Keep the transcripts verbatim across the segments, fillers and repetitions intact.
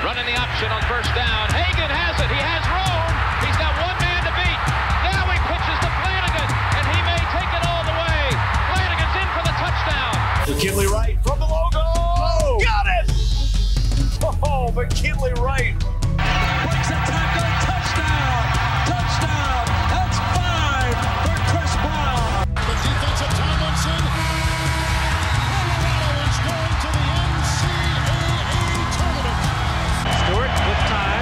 Running the option on first down. Hagan has it. He has room. He's got one man to beat. Now he pitches to Flanagan, and he may take it all the way. Flanagan's in for the touchdown. McKinley Wright from the logo. Oh, got it! Oh, McKinley Wright. Breaks a tackle. Touchdown. Touchdown. That's five for Chris Brown. The defensive Tomlinson. Colorado is going to the N C double A tournament. Stewart with time.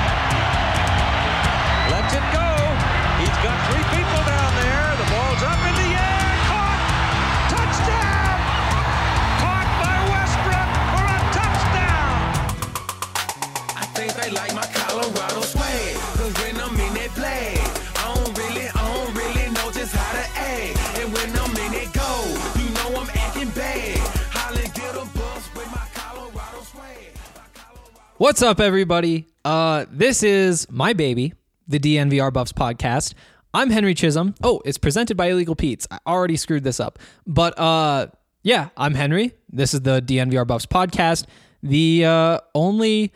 Lets it go. He's got three people down there. The ball's up in the air. Caught. Touchdown. Caught by Westbrook for a touchdown. I think they like my Colorado swag. Cause when I'm in that play, I don't really, I don't really know just how to act. And when I'm in it go, you know I'm acting bad. Holland get a bus with my Colorado swag. What's up, everybody? Uh, this is my baby, the D N V R Buffs podcast. I'm Henry Chisholm. Oh, it's presented by Illegal Pete's. I already screwed this up. But uh, yeah, I'm Henry. This is the D N V R Buffs podcast, the uh, only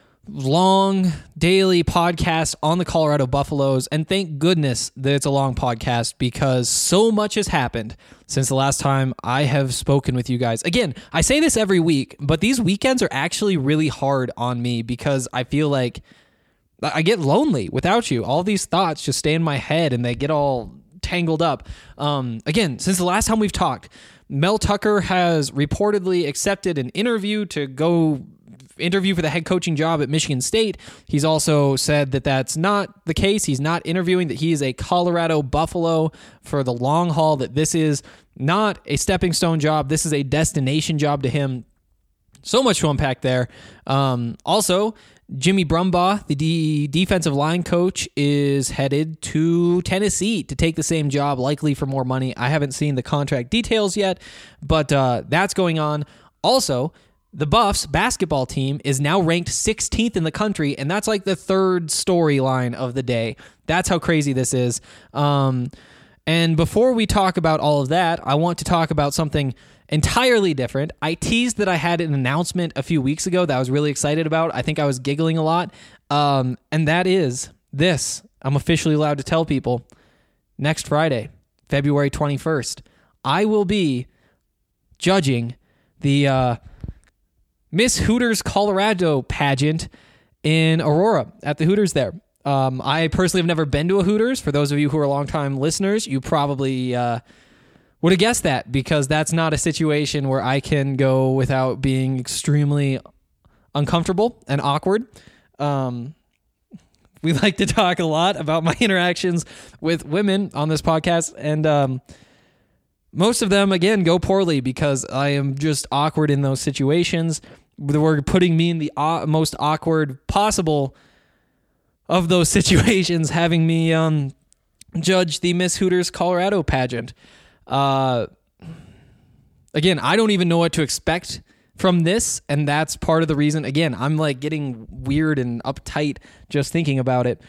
long daily podcast on the Colorado Buffaloes. And thank goodness that it's a long podcast because so much has happened since the last time I have spoken with you guys. Again, I say this every week, but these weekends are actually really hard on me because I feel like I get lonely without you. All these thoughts just stay in my head and they get all tangled up. Um, again, since the last time we've talked, Mel Tucker has reportedly accepted an interview to go interview for the head coaching job at Michigan State. He's also said that that's not the case. He's not interviewing, that he is a Colorado Buffalo for the long haul, that this is not a stepping stone job. This is a destination job to him. So much to unpack there. Um, also, Jimmy Brumbaugh, the D- defensive line coach, is headed to Tennessee to take the same job, likely for more money. I haven't seen the contract details yet, but uh, that's going on. Also, the Buffs basketball team is now ranked sixteenth in the country, and that's like the third storyline of the day. That's how crazy this is. Um, and before we talk about all of that, I want to talk about something entirely different. I teased that I had an announcement a few weeks ago that I was really excited about. I think I was giggling a lot. Um, and that is this. I'm officially allowed to tell people. Next Friday, February twenty-first, I will be judging the uh, Miss Hooters Colorado pageant in Aurora at the Hooters there. Um, I personally have never been to a Hooters. For those of you who are longtime listeners, you probably uh, would have guessed that because that's not a situation where I can go without being extremely uncomfortable and awkward. Um, we like to talk a lot about my interactions with women on this podcast, and um, most of them, again, go poorly because I am just awkward in those situations. We're putting me in the uh, most awkward possible of those situations, having me um, judge the Miss Hooters Colorado pageant. Uh, again, I don't even know what to expect from this, and that's part of the reason. Again, I'm like getting weird and uptight just thinking about it.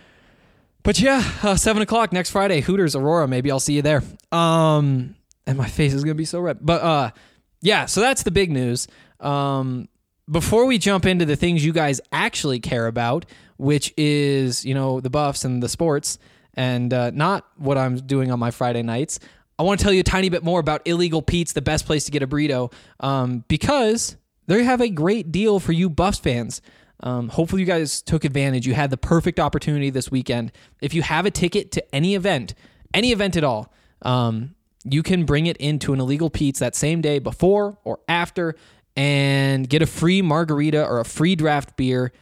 But yeah, uh, seven o'clock next Friday, Hooters, Aurora. Maybe I'll see you there. Um, and my face is going to be so red. But uh, yeah, so that's the big news. Um, before we jump into the things you guys actually care about, which is, you know, the Buffs and the sports, and uh, not what I'm doing on my Friday nights, I want to tell you a tiny bit more about Illegal Pete's, the best place to get a burrito, um, because they have a great deal for you Buffs fans. Um, hopefully you guys took advantage. You had the perfect opportunity this weekend. If you have a ticket to any event, any event at all, um, you can bring it into an Illegal Pete's that same day before or after and get a free margarita or a free draft beer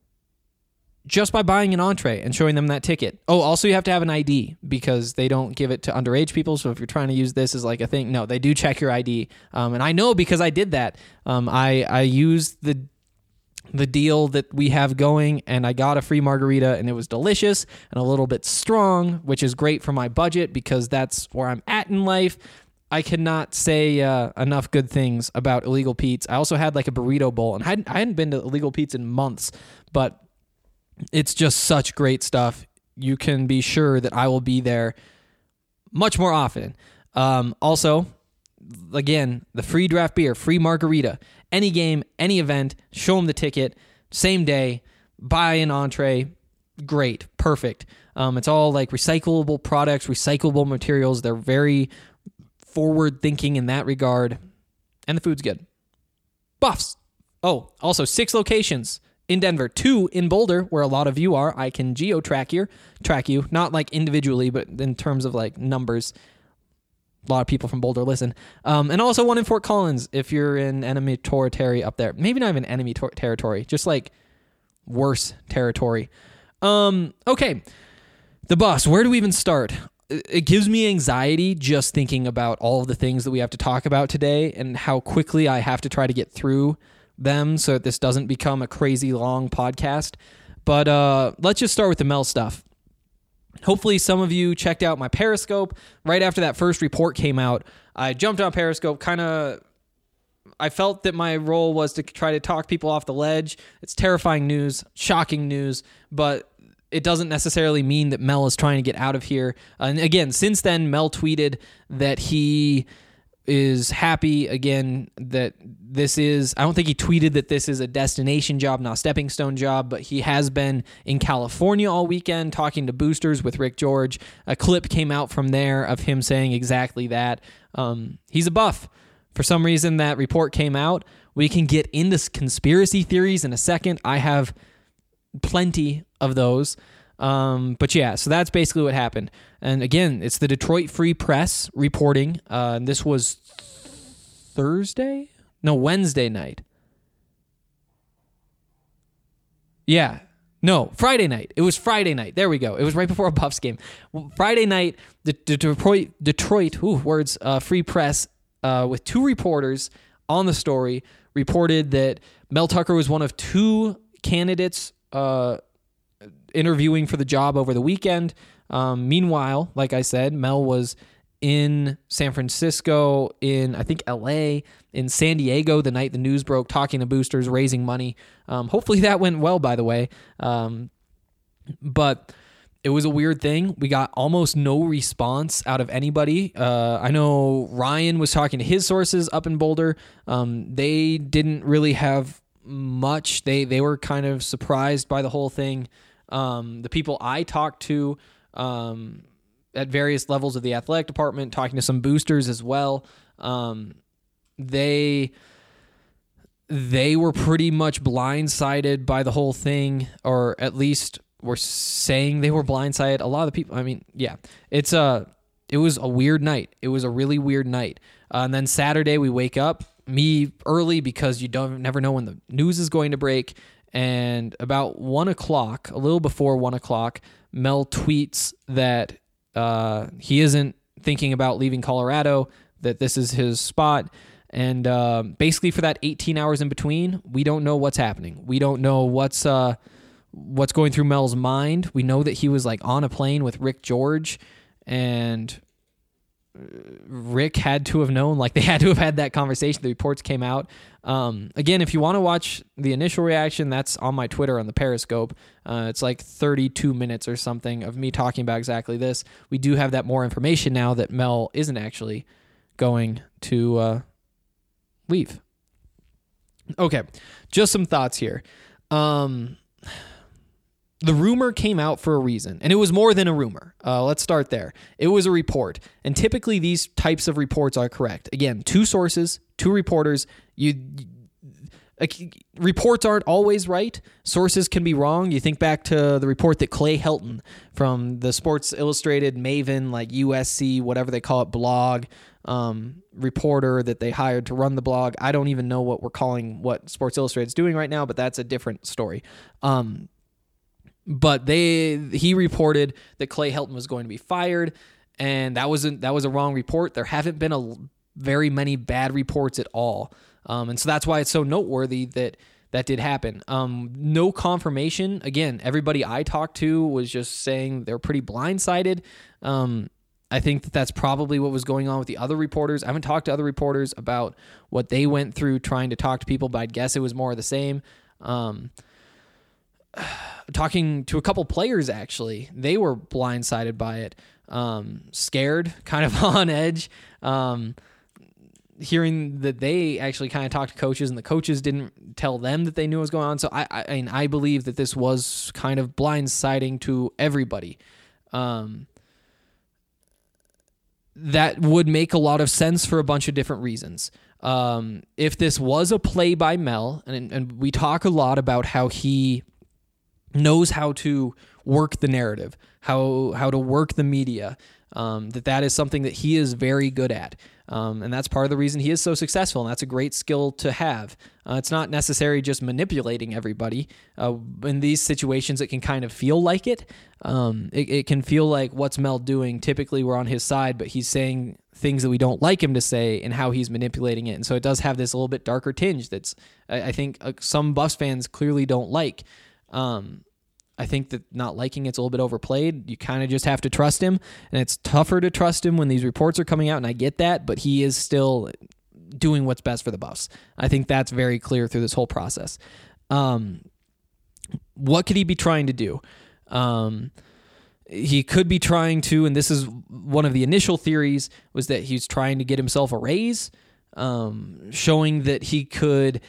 just by buying an entree and showing them that ticket. Oh, also you have to have an I D because they don't give it to underage people. So if you're trying to use this as like a thing, no, they do check your I D. Um, and I know because I did that. Um, I, I used the the deal that we have going, and I got a free margarita, and it was delicious and a little bit strong, which is great for my budget because that's where I'm at in life. I cannot say uh, enough good things about Illegal Pete's. I also had like a burrito bowl, and I hadn't, I hadn't been to Illegal Pete's in months, but it's just such great stuff. You can be sure that I will be there much more often. Um, also, again, the free draft beer, free margarita, any game, any event, show them the ticket. same day, buy an entree, great, perfect. Um, it's all like recyclable products, recyclable materials. They're very forward thinking in that regard, and the food's good. Buffs. Oh, also six locations in Denver, two in Boulder, where a lot of you are. I can geo-track you, track you, not like individually, but in terms of like numbers. A lot of people from Boulder listen. Um, and also one in Fort Collins if you're in enemy territory up there. Maybe not even enemy tor- territory, just like worse territory. Um, okay, the bus. Where do we even start? It gives me anxiety just thinking about all of the things that we have to talk about today and how quickly I have to try to get through them so that this doesn't become a crazy long podcast. But uh, let's just start with the Mel stuff. Hopefully some of you checked out my Periscope. Right after that first report came out, I jumped on Periscope, kind of... I felt that my role was to try to talk people off the ledge. It's terrifying news, shocking news, but it doesn't necessarily mean that Mel is trying to get out of here. And again, since then, Mel tweeted that he is happy, again, that this is, I don't think he tweeted that this is a destination job, not a stepping stone job, but he has been in California all weekend talking to boosters with Rick George. A clip came out from there of him saying exactly that. Um, he's a buff. For some reason, that report came out. We can get into conspiracy theories in a second. I have plenty of those. Um, but yeah, so that's basically what happened. And again, it's the Detroit Free Press reporting. Uh, this was Thursday? No, Wednesday night. Yeah. No, Friday night. It was Friday night. There we go. It was right before a Buffs game. Friday night, the, the Detroit, Detroit, ooh, words, uh, Free Press, uh, with two reporters on the story, reported that Mel Tucker was one of two candidates uh, interviewing for the job over the weekend. Um, meanwhile, like I said, Mel was in San Francisco, in, I think, L A, in San Diego the night the news broke, talking to boosters, raising money. Um, hopefully that went well, by the way. Um, but it was a weird thing. We got almost no response out of anybody. Uh, I know Ryan was talking to his sources up in Boulder. Um, they didn't really have much. They they were kind of surprised by the whole thing. Um, the people I talked to um, at various levels of the athletic department, talking to some boosters as well, um, they they were pretty much blindsided by the whole thing, or at least were saying they were blindsided. A lot of the people, I mean, yeah, it's a, it was a weird night. It was a really weird night. Uh, and then Saturday we wake up, me early because you don't never know when the news is going to break. And about one o'clock, a little before one o'clock, Mel tweets that uh, he isn't thinking about leaving Colorado, that this is his spot. And uh, basically for that eighteen hours in between, we don't know what's happening. We don't know what's uh, what's going through Mel's mind. We know that he was like on a plane with Rick George, and Rick had to have known, like they had to have had that conversation. The reports came out. Um, again, if you want to watch the initial reaction, that's on my Twitter on the Periscope. Uh, it's like thirty-two minutes or something of me talking about exactly this. We do have that more information now that Mel isn't actually going to uh, leave. Okay, just some thoughts here. Um, the rumor came out for a reason, and it was more than a rumor. Uh, let's start there. It was a report, and typically these types of reports are correct. Again, two sources, two reporters. You, uh, reports aren't always right. Sources can be wrong. You think back to the report that Clay Helton from the Sports Illustrated Maven, like U S C, whatever they call it, blog, um, reporter that they hired to run the blog. I don't even know what we're calling what Sports Illustrated is doing right now, but that's a different story. Um, But they he reported that Clay Helton was going to be fired, and that wasn't that was a wrong report. There haven't been a very many bad reports at all, um, and so that's why it's so noteworthy that that did happen. Um, no confirmation. Again, everybody I talked to was just saying they're pretty blindsided. Um, I think that that's probably what was going on with the other reporters. I haven't talked to other reporters about what they went through trying to talk to people, but I'd guess it was more of the same. Um, Talking to a couple players, actually, they were blindsided by it, um, scared, kind of on edge. Um, hearing that they actually kind of talked to coaches and the coaches didn't tell them that they knew what was going on. So I, I, I mean, I believe that this was kind of blindsiding to everybody. Um, that would make a lot of sense for a bunch of different reasons. Um, if this was a play by Mel, and, and we talk a lot about how he knows how to work the narrative, how how to work the media, um, that that is something that he is very good at. Um, and that's part of the reason he is so successful, and that's a great skill to have. Uh, it's not necessarily just manipulating everybody. Uh, in these situations, it can kind of feel like it. Um, it. It can feel like what's Mel doing? Typically, we're on his side, but he's saying things that we don't like him to say and how he's manipulating it. And so it does have this a little bit darker tinge that's, I, I think, uh, some Buffs fans clearly don't like. Um, I think that not liking it's a little bit overplayed. You kind of just have to trust him, and it's tougher to trust him when these reports are coming out, and I get that, but he is still doing what's best for the Buffs. I think that's very clear through this whole process. Um, what could he be trying to do? Um, he could be trying to, and this is one of the initial theories, was that he's trying to get himself a raise, um, showing that he could...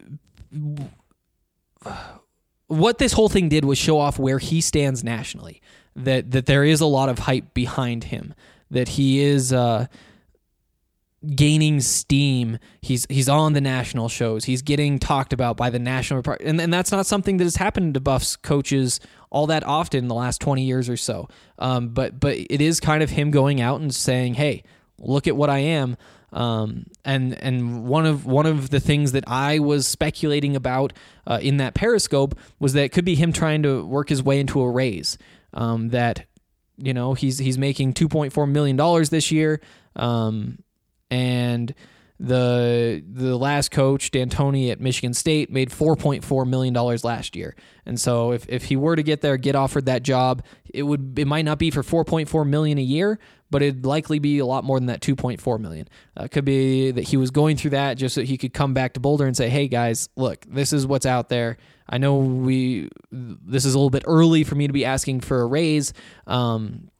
Uh, What this whole thing did was show off where he stands nationally, that that there is a lot of hype behind him, that he is uh, gaining steam. He's he's on the national shows. He's getting talked about by the national, and and that's not something that has happened to Buffs coaches all that often in the last twenty years or so. Um, but but it is kind of him going out and saying, "Hey, look at what I am." Um, and and one of one of the things that I was speculating about uh, in that Periscope was that it could be him trying to work his way into a raise. Um, that you know he's he's making two point four million dollars this year, um, and the the last coach D'Antoni at Michigan State made four point four million dollars last year. And so if if he were to get there, get offered that job, it would it might not be for four point four million dollars a year, but it'd likely be a lot more than that two point four million dollars. Uh, it could be that he was going through that just so he could come back to Boulder and say, hey guys, look, this is what's out there. I know we this is a little bit early for me to be asking for a raise, um,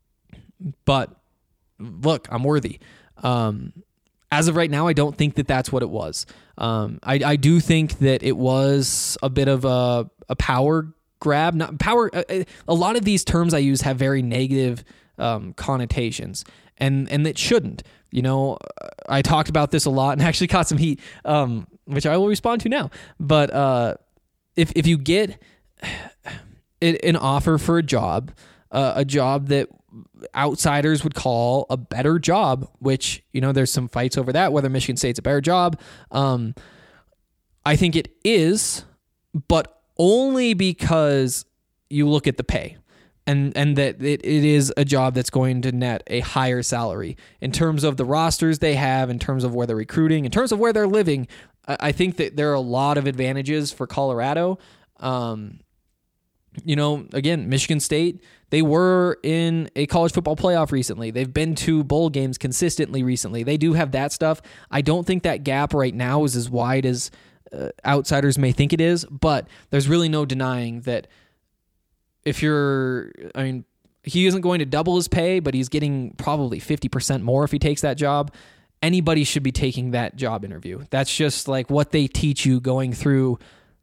but look, I'm worthy. Um, as of right now, I don't think that that's what it was. Um, I, I do think that it was a bit of a, a power grab. Not power. A, a lot of these terms I use have very negative um, connotations, and and it shouldn't. You know, I talked about this a lot and actually caught some heat, um, which I will respond to now. But uh, if if you get an offer for a job, uh, a job that outsiders would call a better job, which, you know, there's some fights over that, whether Michigan State's a better job. Um, I think it is, but only because you look at the pay and, and that it, it is a job that's going to net a higher salary in terms of the rosters they have, in terms of where they're recruiting, in terms of where they're living. I think that there are a lot of advantages for Colorado. Um, You know, again, Michigan State, they were in a college football playoff recently. They've been to bowl games consistently recently. They do have that stuff. I don't think that gap right now is as wide as uh, outsiders may think it is, but there's really no denying that if you're, I mean, he isn't going to double his pay, but he's getting probably fifty percent more if he takes that job. Anybody should be taking that job interview. That's just like what they teach you going through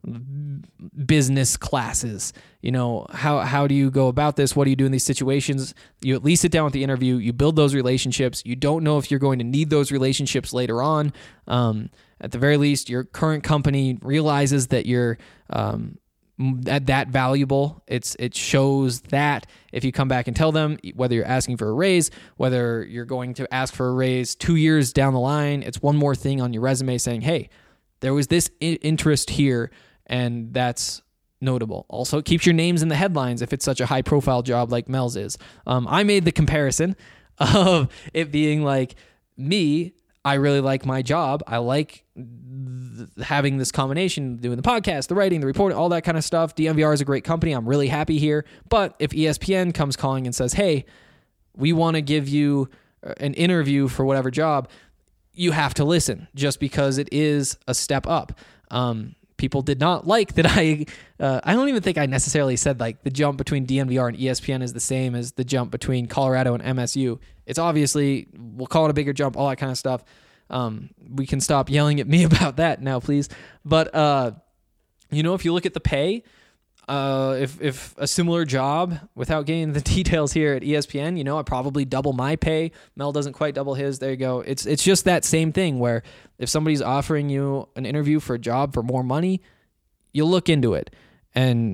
business classes. You know, how how do you go about this? What do you do in these situations? You at least sit down with the interview, you build those relationships. You don't know if you're going to need those relationships later on. Um, at the very least, your current company realizes that you're um, that, that valuable. It's it shows that if you come back and tell them, whether you're asking for a raise, whether you're going to ask for a raise two years down the line, it's one more thing on your resume saying, hey, there was this I- interest here, and that's notable. Also, it keeps your names in the headlines if it's such a high-profile job like Mel's is. Um, I made the comparison of it being like, me, I really like my job. I like th- having this combination, doing the podcast, the writing, the reporting, all that kind of stuff. D N V R is a great company. I'm really happy here. But if E S P N comes calling and says, hey, we want to give you an interview for whatever job, you have to listen just because it is a step up. Um, people did not like that I, uh, I don't even think I necessarily said like the jump between D N V R and E S P N is the same as the jump between Colorado and M S U. It's obviously, we'll call it a bigger jump, all that kind of stuff. Um, we can stop yelling at me about that now, please. But, uh, you know, if you look at the pay, uh, if, if a similar job, without getting the details here at E S P N, you know, I probably double my pay. Mel doesn't quite double his. There you go. It's, it's just that same thing where if somebody's offering you an interview for a job for more money, you'll look into it. And,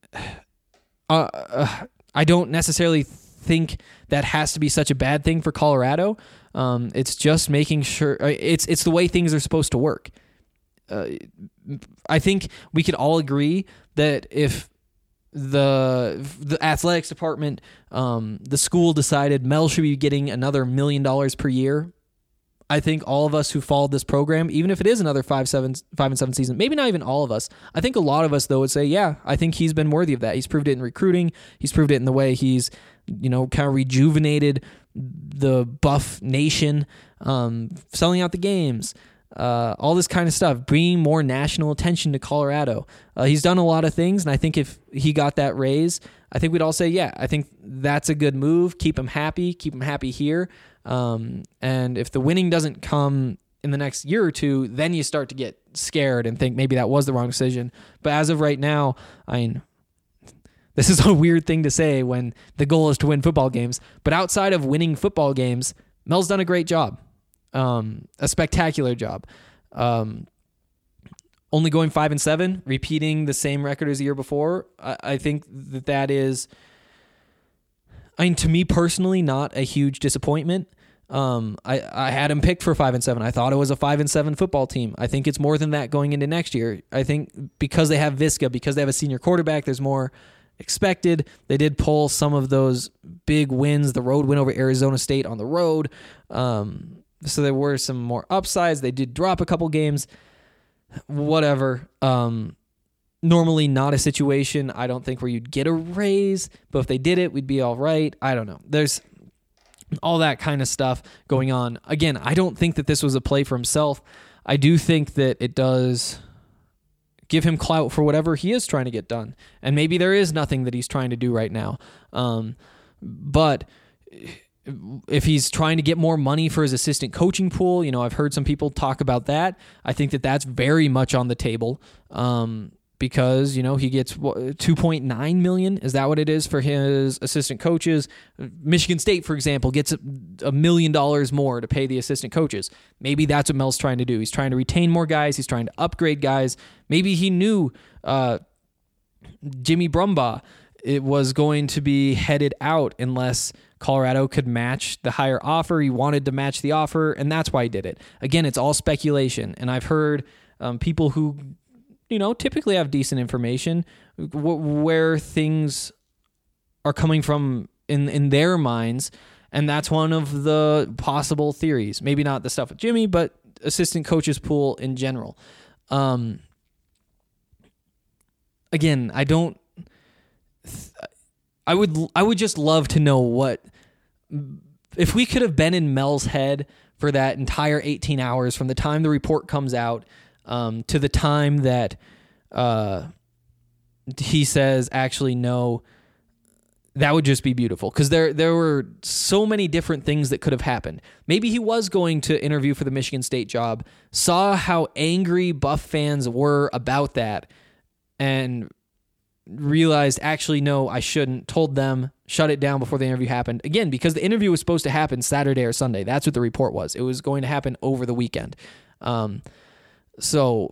uh, uh I don't necessarily think that has to be such a bad thing for Colorado. Um, it's just making sure it's it's the way things are supposed to work. Uh, I think we could all agree that if the the athletics department, um, the school decided Mel should be getting another million dollars per year, I think all of us who followed this program, even if it is another five, seven, five and seven season, maybe not even all of us. I think a lot of us though would say, yeah, I think he's been worthy of that. He's proved it in recruiting. He's proved it in the way he's, you know, kind of rejuvenated the Buff Nation, um, selling out the games, uh, all this kind of stuff, bringing more national attention to Colorado. Uh, he's done a lot of things, and I think if he got that raise, I think we'd all say, yeah, I think that's a good move. Keep him happy. Keep him happy here. Um, and if the winning doesn't come in the next year or two, then you start to get scared and think maybe that was the wrong decision. But as of right now, I mean, this is a weird thing to say when the goal is to win football games. But outside of winning football games, Mel's done a great job, um, a spectacular job. Um, only going five and seven, repeating the same record as the year before. I, I think that that is, I mean, to me personally, not a huge disappointment. Um, I, I had him picked for five and seven. I thought it was a five and seven football team. I think it's more than that going into next year. I think because they have Visca, because they have a senior quarterback, there's more expected. They did pull some of those big wins, the road win over Arizona State on the road. Um, so there were some more upsides. They did drop a couple games, whatever. Um, normally not a situation, I don't think, where you'd get a raise, but if they did it, we'd be all right. I don't know. There's all that kind of stuff going on. Again, I don't think that this was a play for himself. I do think that it does give him clout for whatever he is trying to get done. And maybe there is nothing that he's trying to do right now. Um, but if he's trying to get more money for his assistant coaching pool, you know, I've heard some people talk about that. I think that that's very much on the table. Um, because, you know, he gets two point nine million dollars. Is that what it is for his assistant coaches? Michigan State, for example, gets a million dollars more to pay the assistant coaches. Maybe that's what Mel's trying to do. He's trying to retain more guys. He's trying to upgrade guys. Maybe he knew uh, Jimmy Brumbaugh it was going to be headed out unless Colorado could match the higher offer. He wanted to match the offer, and that's why he did it. Again, it's all speculation, and I've heard um, people who, you know, typically have decent information w- where things are coming from in, in their minds. And that's one of the possible theories. Maybe not the stuff with Jimmy, but assistant coaches pool in general. Um, again, I don't, I would, I would just love to know what, if we could have been in Mel's head for that entire eighteen hours from the time the report comes out Um, to the time that uh, he says, actually, no, that would just be beautiful. Because there there were so many different things that could have happened. Maybe he was going to interview for the Michigan State job, saw how angry Buff fans were about that, and realized, actually, no, I shouldn't, told them, shut it down before the interview happened. Again, because the interview was supposed to happen Saturday or Sunday. That's what the report was. It was going to happen over the weekend. Um So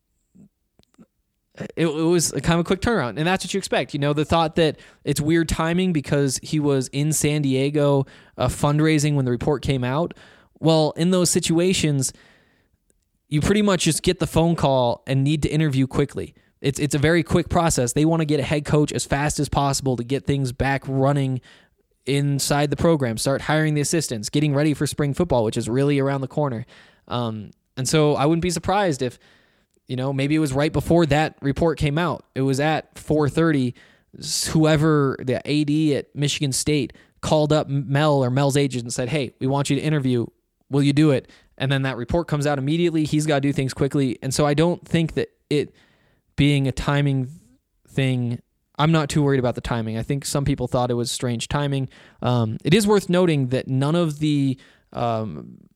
it, it was a kind of a quick turnaround, and that's what you expect. You know, the thought that it's weird timing because he was in San Diego uh, fundraising when the report came out. Well, in those situations, you pretty much just get the phone call and need to interview quickly. It's it's a very quick process. They want to get a head coach as fast as possible to get things back running inside the program, start hiring the assistants, getting ready for spring football, which is really around the corner. Um, And so I wouldn't be surprised if, you know, maybe it was right before that report came out. It was at four thirty. Whoever, the A D at Michigan State, called up Mel or Mel's agent and said, hey, we want you to interview. Will you do it? And then that report comes out immediately. He's got to do things quickly. And so I don't think that it being a timing thing, I'm not too worried about the timing. I think some people thought it was strange timing. Um, it is worth noting that none of the... Um,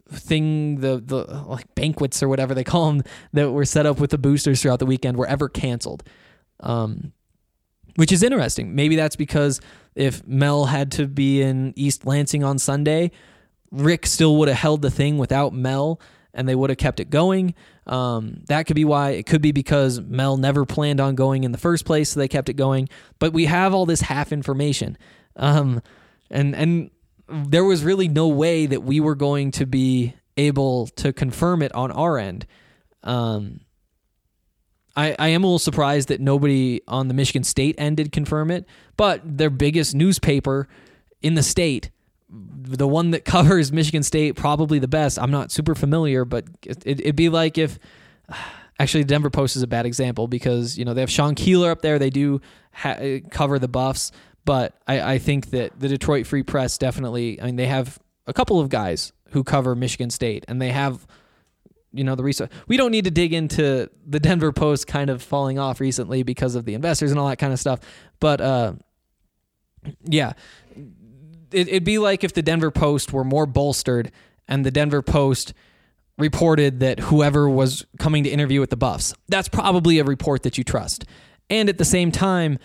thing, the the like banquets or whatever they call them that were set up with the boosters throughout the weekend were ever canceled. Um, which is interesting. Maybe that's because if Mel had to be in East Lansing on Sunday, Rick still would have held the thing without Mel, and they would have kept it going. Um, that could be why. It could be because Mel never planned on going in the first place, so they kept it going. But we have all this half information. Um, and and there was really no way that we were going to be able to confirm it on our end. Um, I, I am a little surprised that nobody on the Michigan State end did confirm it, but their biggest newspaper in the state, the one that covers Michigan State probably the best. I'm not super familiar, but it, it'd be like if, actually the Denver Post is a bad example because, you know, they have Sean Keeler up there. They do ha- cover the Buffs, but I, I think that the Detroit Free Press definitely, I mean, they have a couple of guys who cover Michigan State, and they have, you know, the research. We don't need to dig into the Denver Post kind of falling off recently because of the investors and all that kind of stuff. But, uh, yeah, it, it'd be like if the Denver Post were more bolstered and the Denver Post reported that whoever was coming to interview with the Buffs, that's probably a report that you trust. And at the same time,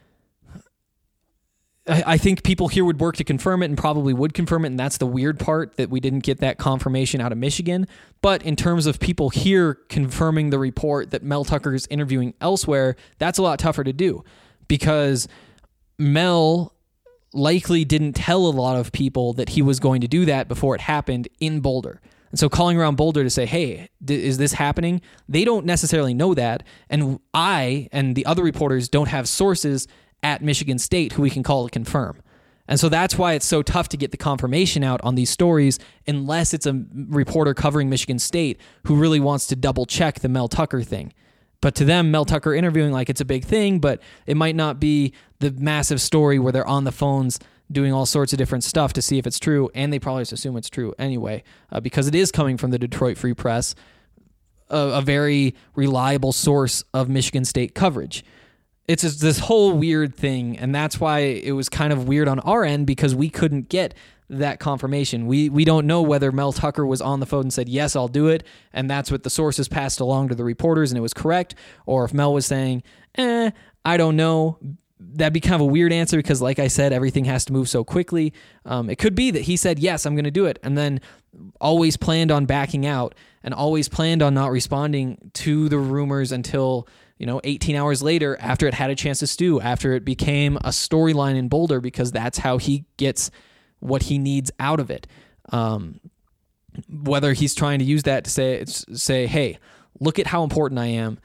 I think people here would work to confirm it and probably would confirm it, and that's the weird part, that we didn't get that confirmation out of Michigan. But in terms of people here confirming the report that Mel Tucker is interviewing elsewhere, that's a lot tougher to do because Mel likely didn't tell a lot of people that he was going to do that before it happened in Boulder. And so calling around Boulder to say, hey, d- is this happening? They don't necessarily know that. And I and the other reporters don't have sources at Michigan State who we can call to confirm. And so that's why it's so tough to get the confirmation out on these stories unless it's a reporter covering Michigan State who really wants to double check the Mel Tucker thing. But to them, Mel Tucker interviewing like it's a big thing, but it might not be the massive story where they're on the phones doing all sorts of different stuff to see if it's true, and they probably just assume it's true anyway, uh, because it is coming from the Detroit Free Press, a, a very reliable source of Michigan State coverage. It's just this whole weird thing, and that's why it was kind of weird on our end because we couldn't get that confirmation. We we don't know whether Mel Tucker was on the phone and said, yes, I'll do it, and that's what the sources passed along to the reporters, and it was correct, or if Mel was saying, eh, I don't know. That'd be kind of a weird answer because, like I said, everything has to move so quickly. Um, it could be that he said, yes, I'm going to do it, and then always planned on backing out and always planned on not responding to the rumors until, you know, eighteen hours later after it had a chance to stew, after it became a storyline in Boulder, because that's how he gets what he needs out of it. Um, whether he's trying to use that to say, say, hey, look at how important I am.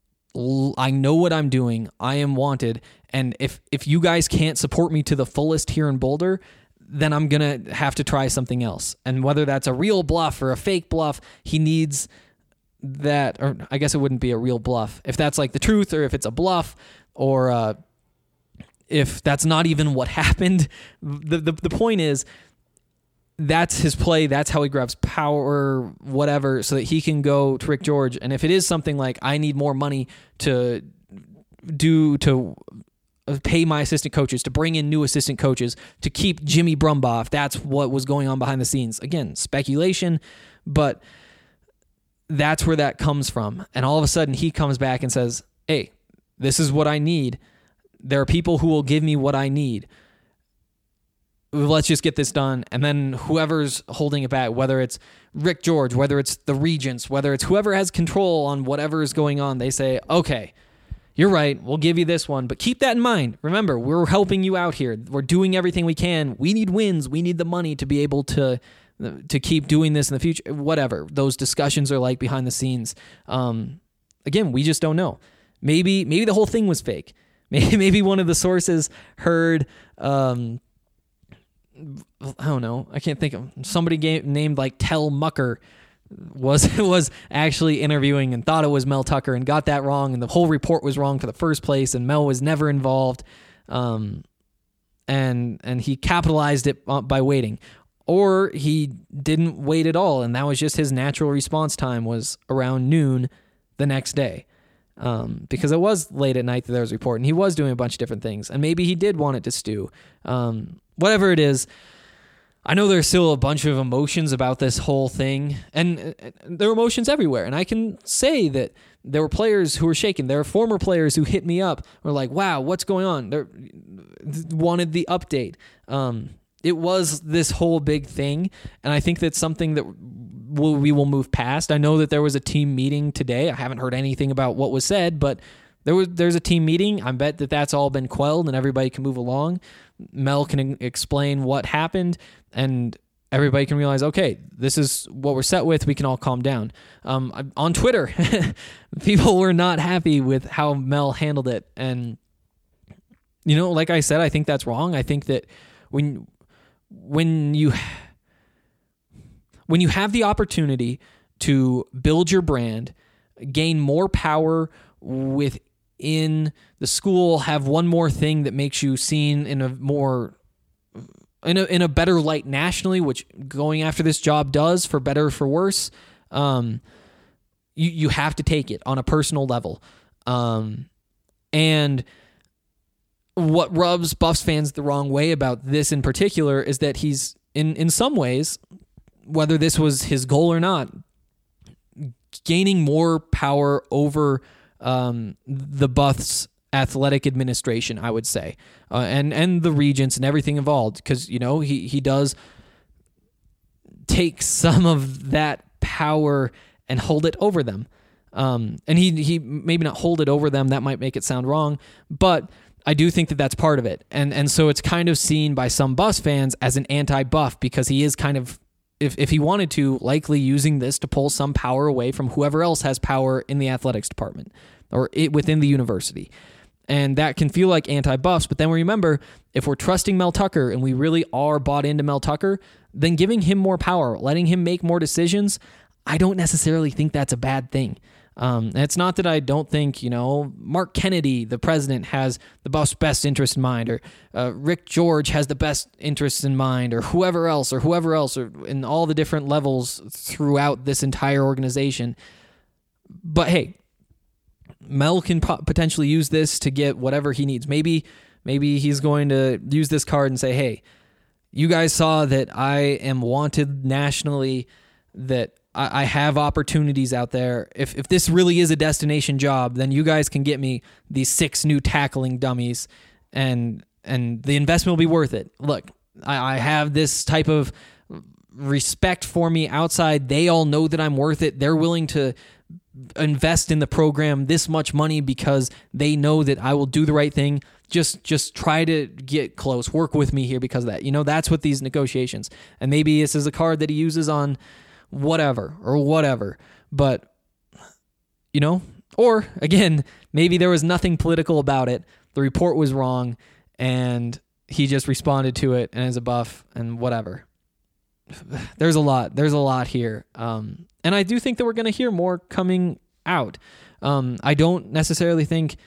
I know what I'm doing. I am wanted. And if, if you guys can't support me to the fullest here in Boulder, then I'm going to have to try something else. And whether that's a real bluff or a fake bluff, he needs that, or I guess it wouldn't be a real bluff. If that's like the truth, or if it's a bluff, or uh, if that's not even what happened, the, the the point is that's his play. That's how he grabs power, whatever, so that he can go to Rick George. And if it is something like, I need more money to do, to pay my assistant coaches, to bring in new assistant coaches, to keep Jimmy Brumbaugh, if that's what was going on behind the scenes. Again, speculation, but that's where that comes from. And all of a sudden he comes back and says, hey, this is what I need. There are people who will give me what I need. Let's just get this done. And then whoever's holding it back, whether it's Rick George, whether it's the regents, whether it's whoever has control on whatever is going on, they say, okay, you're right, we'll give you this one, but keep that in mind. Remember, we're helping you out here. We're doing everything we can. We need wins. We need the money to be able to to keep doing this in the future. Whatever those discussions are like behind the scenes. Um, again, we just don't know. Maybe maybe the whole thing was fake. Maybe, maybe one of the sources heard, um, I don't know, I can't think of, somebody gave, named like Tel Mucker was was actually interviewing and thought it was Mel Tucker and got that wrong, and the whole report was wrong to the first place, and Mel was never involved, um, and and he capitalized it by waiting. Or he didn't wait at all, and that was just his natural response time was around noon the next day. Um, because it was late at night that there was a report, and he was doing a bunch of different things, and maybe he did want it to stew. Um, whatever it is, I know there's still a bunch of emotions about this whole thing, and there are emotions everywhere. And I can say that there were players who were shaken. There are former players who hit me up, were like, wow, what's going on? They wanted the update. Um, it was this whole big thing, and I think that's something that we'll, we will move past. I know that there was a team meeting today. I haven't heard anything about what was said, but there was there's a team meeting. I bet that that's all been quelled, and everybody can move along. Mel can explain what happened, and everybody can realize, okay, this is what we're set with. We can all calm down. Um, on Twitter, people were not happy with how Mel handled it. And, you know, like I said, I think that's wrong. I think that when when you when you have the opportunity to build your brand, gain more power within the school, have one more thing that makes you seen in a more in a in a better light nationally, which going after this job does, for better or for worse, um, you you have to take it on a personal level. Um, and what rubs Buffs fans the wrong way about this in particular is that he's in in some ways, whether this was his goal or not, gaining more power over um, the Buffs athletic administration, I would say, uh, and and the regents and everything involved, because you know he he does take some of that power and hold it over them, um, and he he maybe not hold it over them. That might make it sound wrong, but I do think that that's part of it, and and so it's kind of seen by some Buffs fans as an anti-Buff, because he is kind of, if if he wanted to, likely using this to pull some power away from whoever else has power in the athletics department or it, within the university. And that can feel like anti-Buffs, but then we remember, if we're trusting Mel Tucker and we really are bought into Mel Tucker, then giving him more power, letting him make more decisions, I don't necessarily think that's a bad thing. Um, and it's not that I don't think, you know, Mark Kennedy, the president, has the Buffs' best interest in mind, or uh, Rick George has the best interests in mind, or whoever else, or whoever else, or in all the different levels throughout this entire organization. But hey, Mel can po- potentially use this to get whatever he needs. Maybe, maybe he's going to use this card and say, hey, you guys saw that I am wanted nationally, that I have opportunities out there. If if this really is a destination job, then you guys can get me these six new tackling dummies, and and the investment will be worth it. Look, I, I have this type of respect for me outside. They all know that I'm worth it. They're willing to invest in the program this much money because they know that I will do the right thing. Just just try to get close. Work with me here because of that. You know, that's what these negotiations. And maybe this is a card that he uses on whatever or whatever, but you know, or again, maybe there was nothing political about it. The report was wrong and he just responded to it and as a Buff and whatever. There's a lot, there's a lot here. Um, and I do think that we're going to hear more coming out. Um, I don't necessarily think,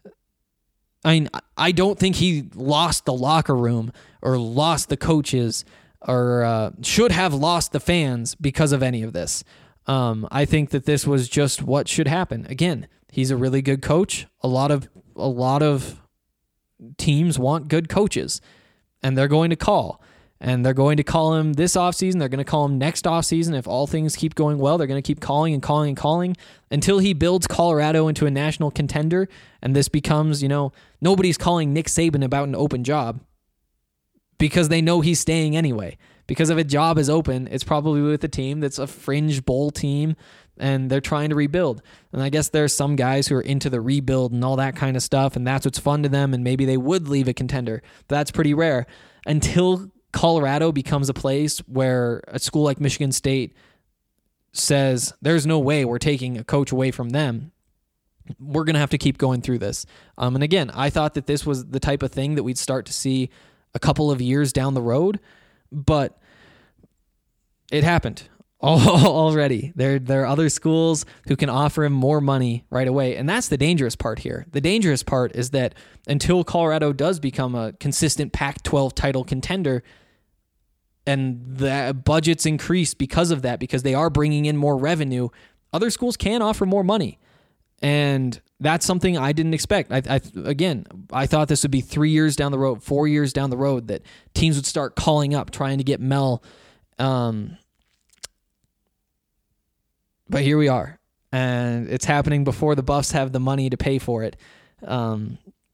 I mean, I don't think he lost the locker room or lost the coaches or uh, should have lost the fans because of any of this. Um, I think that this was just what should happen. Again, he's a really good coach. A lot of a lot of teams want good coaches, and they're going to call. And they're going to call him this offseason. They're going to call him next offseason. If all things keep going well, they're going to keep calling and calling and calling until he builds Colorado into a national contender, and this becomes, you know, nobody's calling Nick Saban about an open job, because they know he's staying anyway. Because if a job is open, it's probably with a team that's a fringe bowl team, and they're trying to rebuild. And I guess there's some guys who are into the rebuild and all that kind of stuff, and that's what's fun to them, and maybe they would leave a contender. But that's pretty rare. Until Colorado becomes a place where a school like Michigan State says, there's no way we're taking a coach away from them, we're going to have to keep going through this. Um, and again, I thought that this was the type of thing that we'd start to see a couple of years down the road, but it happened already. There, there are other schools who can offer him more money right away, and that's the dangerous part here. The dangerous part is that until Colorado does become a consistent Pac twelve title contender, and the budgets increase because of that, because they are bringing in more revenue, other schools can offer more money. And that's something I didn't expect. I, I again, I thought this would be three years down the road, four years down the road, that teams would start calling up, trying to get Mel. Um, but here we are, and it's happening before the Buffs have the money to pay for it. Um,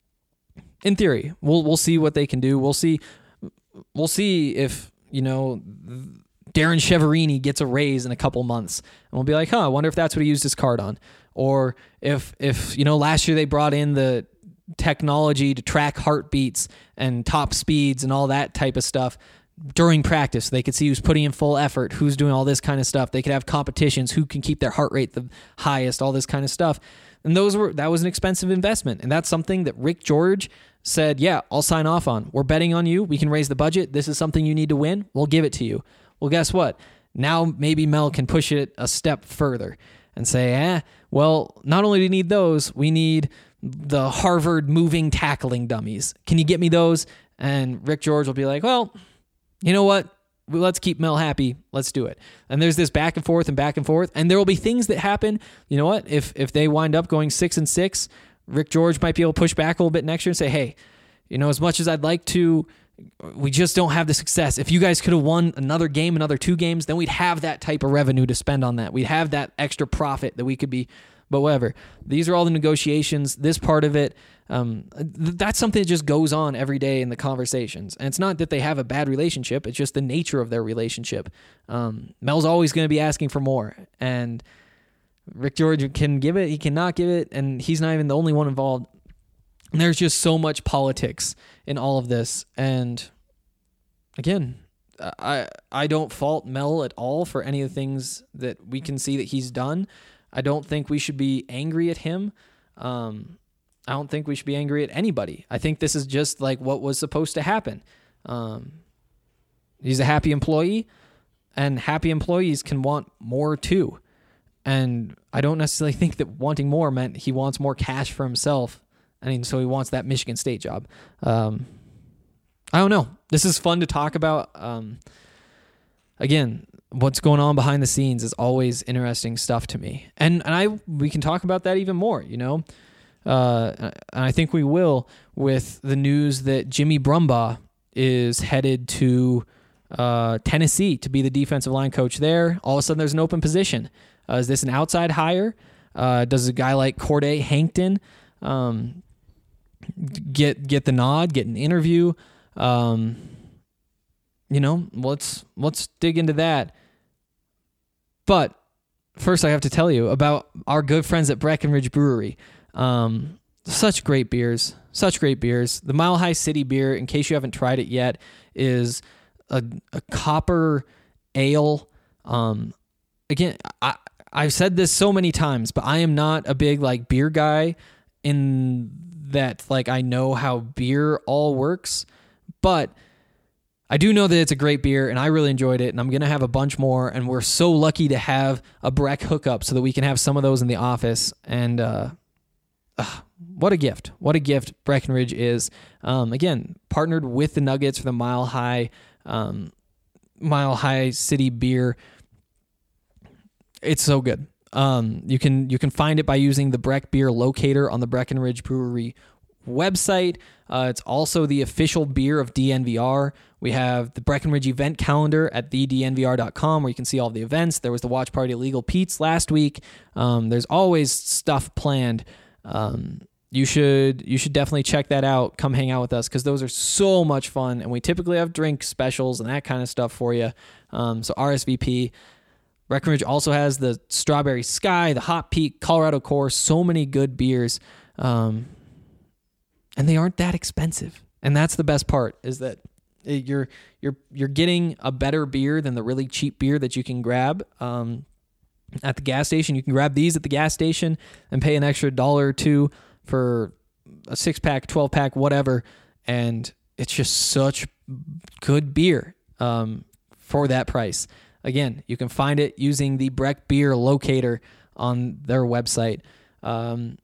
in theory, we'll we'll see what they can do. We'll see. We'll see if, you know, Darren Cheverini gets a raise in a couple months, and we'll be like, huh, I wonder if that's what he used his card on. Or if, if you know, last year they brought in the technology to track heartbeats and top speeds and all that type of stuff during practice. They could see who's putting in full effort, who's doing all this kind of stuff. They could have competitions, who can keep their heart rate the highest, all this kind of stuff. And those were that was an expensive investment. And that's something that Rick George said, yeah, I'll sign off on. We're betting on you. We can raise the budget. This is something you need to win. We'll give it to you. Well, guess what? Now maybe Mel can push it a step further and say, eh, well, not only do we need those, we need the Harvard moving tackling dummies. Can you get me those? And Rick George will be like, well, you know what? Let's keep Mel happy. Let's do it. And there's this back and forth and back and forth. And there will be things that happen. You know what? If if they wind up going six and six, Rick George might be able to push back a little bit next year and say, hey, you know, as much as I'd like to, we just don't have the success. If you guys could have won another game, another two games, then we'd have that type of revenue to spend on that. We'd have that extra profit that we could be, but whatever. These are all the negotiations. This part of it, um, th- that's something that just goes on every day in the conversations. And it's not that they have a bad relationship. It's just the nature of their relationship. Um, Mel's always going to be asking for more. And Rick George can give it, he cannot give it, and he's not even the only one involved. And there's just so much politics in all of this. And again, I I don't fault Mel at all for any of the things that we can see that he's done. I don't think we should be angry at him. Um, I don't think we should be angry at anybody. I think this is just like what was supposed to happen. Um, he's a happy employee, and happy employees can want more too. And I don't necessarily think that wanting more meant he wants more cash for himself. I mean, so he wants that Michigan State job. Um, I don't know. This is fun to talk about. Um, again, what's going on behind the scenes is always interesting stuff to me. And and I we can talk about that even more, you know. Uh, and I think we will with the news that Jimmy Brumbaugh is headed to uh, Tennessee to be the defensive line coach there. All of a sudden, there's an open position. Uh, is this an outside hire? Uh, does a guy like Corday Hankton um, get get the nod, get an interview? Um, you know, let's let's dig into that. But first, I have to tell you about our good friends at Breckenridge Brewery. Um, such great beers, such great beers. The Mile High City beer, in case you haven't tried it yet, is a, a copper ale. Um, again, I. I've said this so many times, but I am not a big like beer guy in that like I know how beer all works, but I do know that it's a great beer and I really enjoyed it, and I'm going to have a bunch more, and we're so lucky to have a Breck hookup so that we can have some of those in the office. And uh, uh, what a gift. What a gift Breckenridge is. Um, again, partnered with the Nuggets for the Mile High um, Mile High City beer. It's so good. Um, you can you can find it by using the Breck Beer Locator on the Breckenridge Brewery website. Uh, it's also the official beer of D N V R. We have the Breckenridge event calendar at the d n v r dot com where you can see all the events. There was the Watch Party at Legal Pete's last week. Um, there's always stuff planned. Um, you should you should definitely check that out. Come hang out with us because those are so much fun, and we typically have drink specials and that kind of stuff for you. Um, so R S V P. Breckenridge also has the Strawberry Sky, the Hot Peak, Colorado Core, so many good beers. Um, and they aren't that expensive. And that's the best part, is that you're you're you're getting a better beer than the really cheap beer that you can grab um, at the gas station. You can grab these at the gas station and pay an extra dollar or two for a six-pack, twelve-pack, whatever. And it's just such good beer um, for that price. Again, you can find it using the Breck Beer Locator on their website. Um,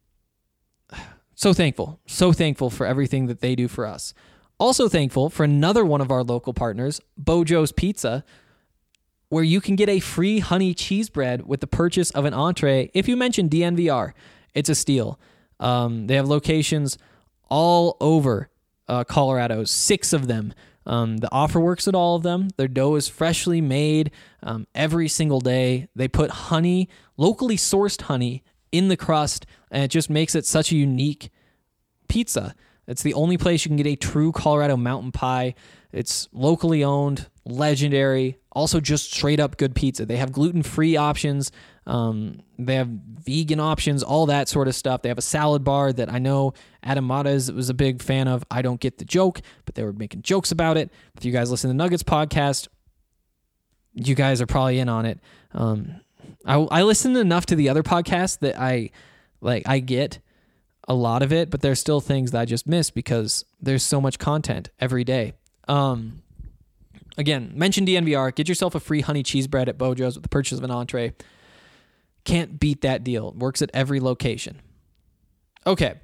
so thankful, so thankful for everything that they do for us. Also thankful for another one of our local partners, Bojo's Pizza, where you can get a free honey cheese bread with the purchase of an entree if you mention D N V R. It's a steal. Um, they have locations all over uh, Colorado, six of them. Um, the offer works at all of them. Their dough is freshly made um, every single day. They put honey, locally sourced honey, in the crust, and it just makes it such a unique pizza. It's the only place you can get a true Colorado mountain pie. It's locally owned, legendary, also just straight up good pizza. They have gluten-free options. Um, they have vegan options, all that sort of stuff. They have a salad bar that I know Adam Matas was a big fan of. I don't get the joke, but they were making jokes about it. If you guys listen to the Nuggets podcast, you guys are probably in on it. Um, I, I listen enough to the other podcasts that I like. I get a lot of it, but there's still things that I just miss because there's so much content every day. Um, again, mention D N V R. Get yourself a free honey cheese bread at Bojo's with the purchase of an entree. Can't beat that deal. It works at every location. Okay.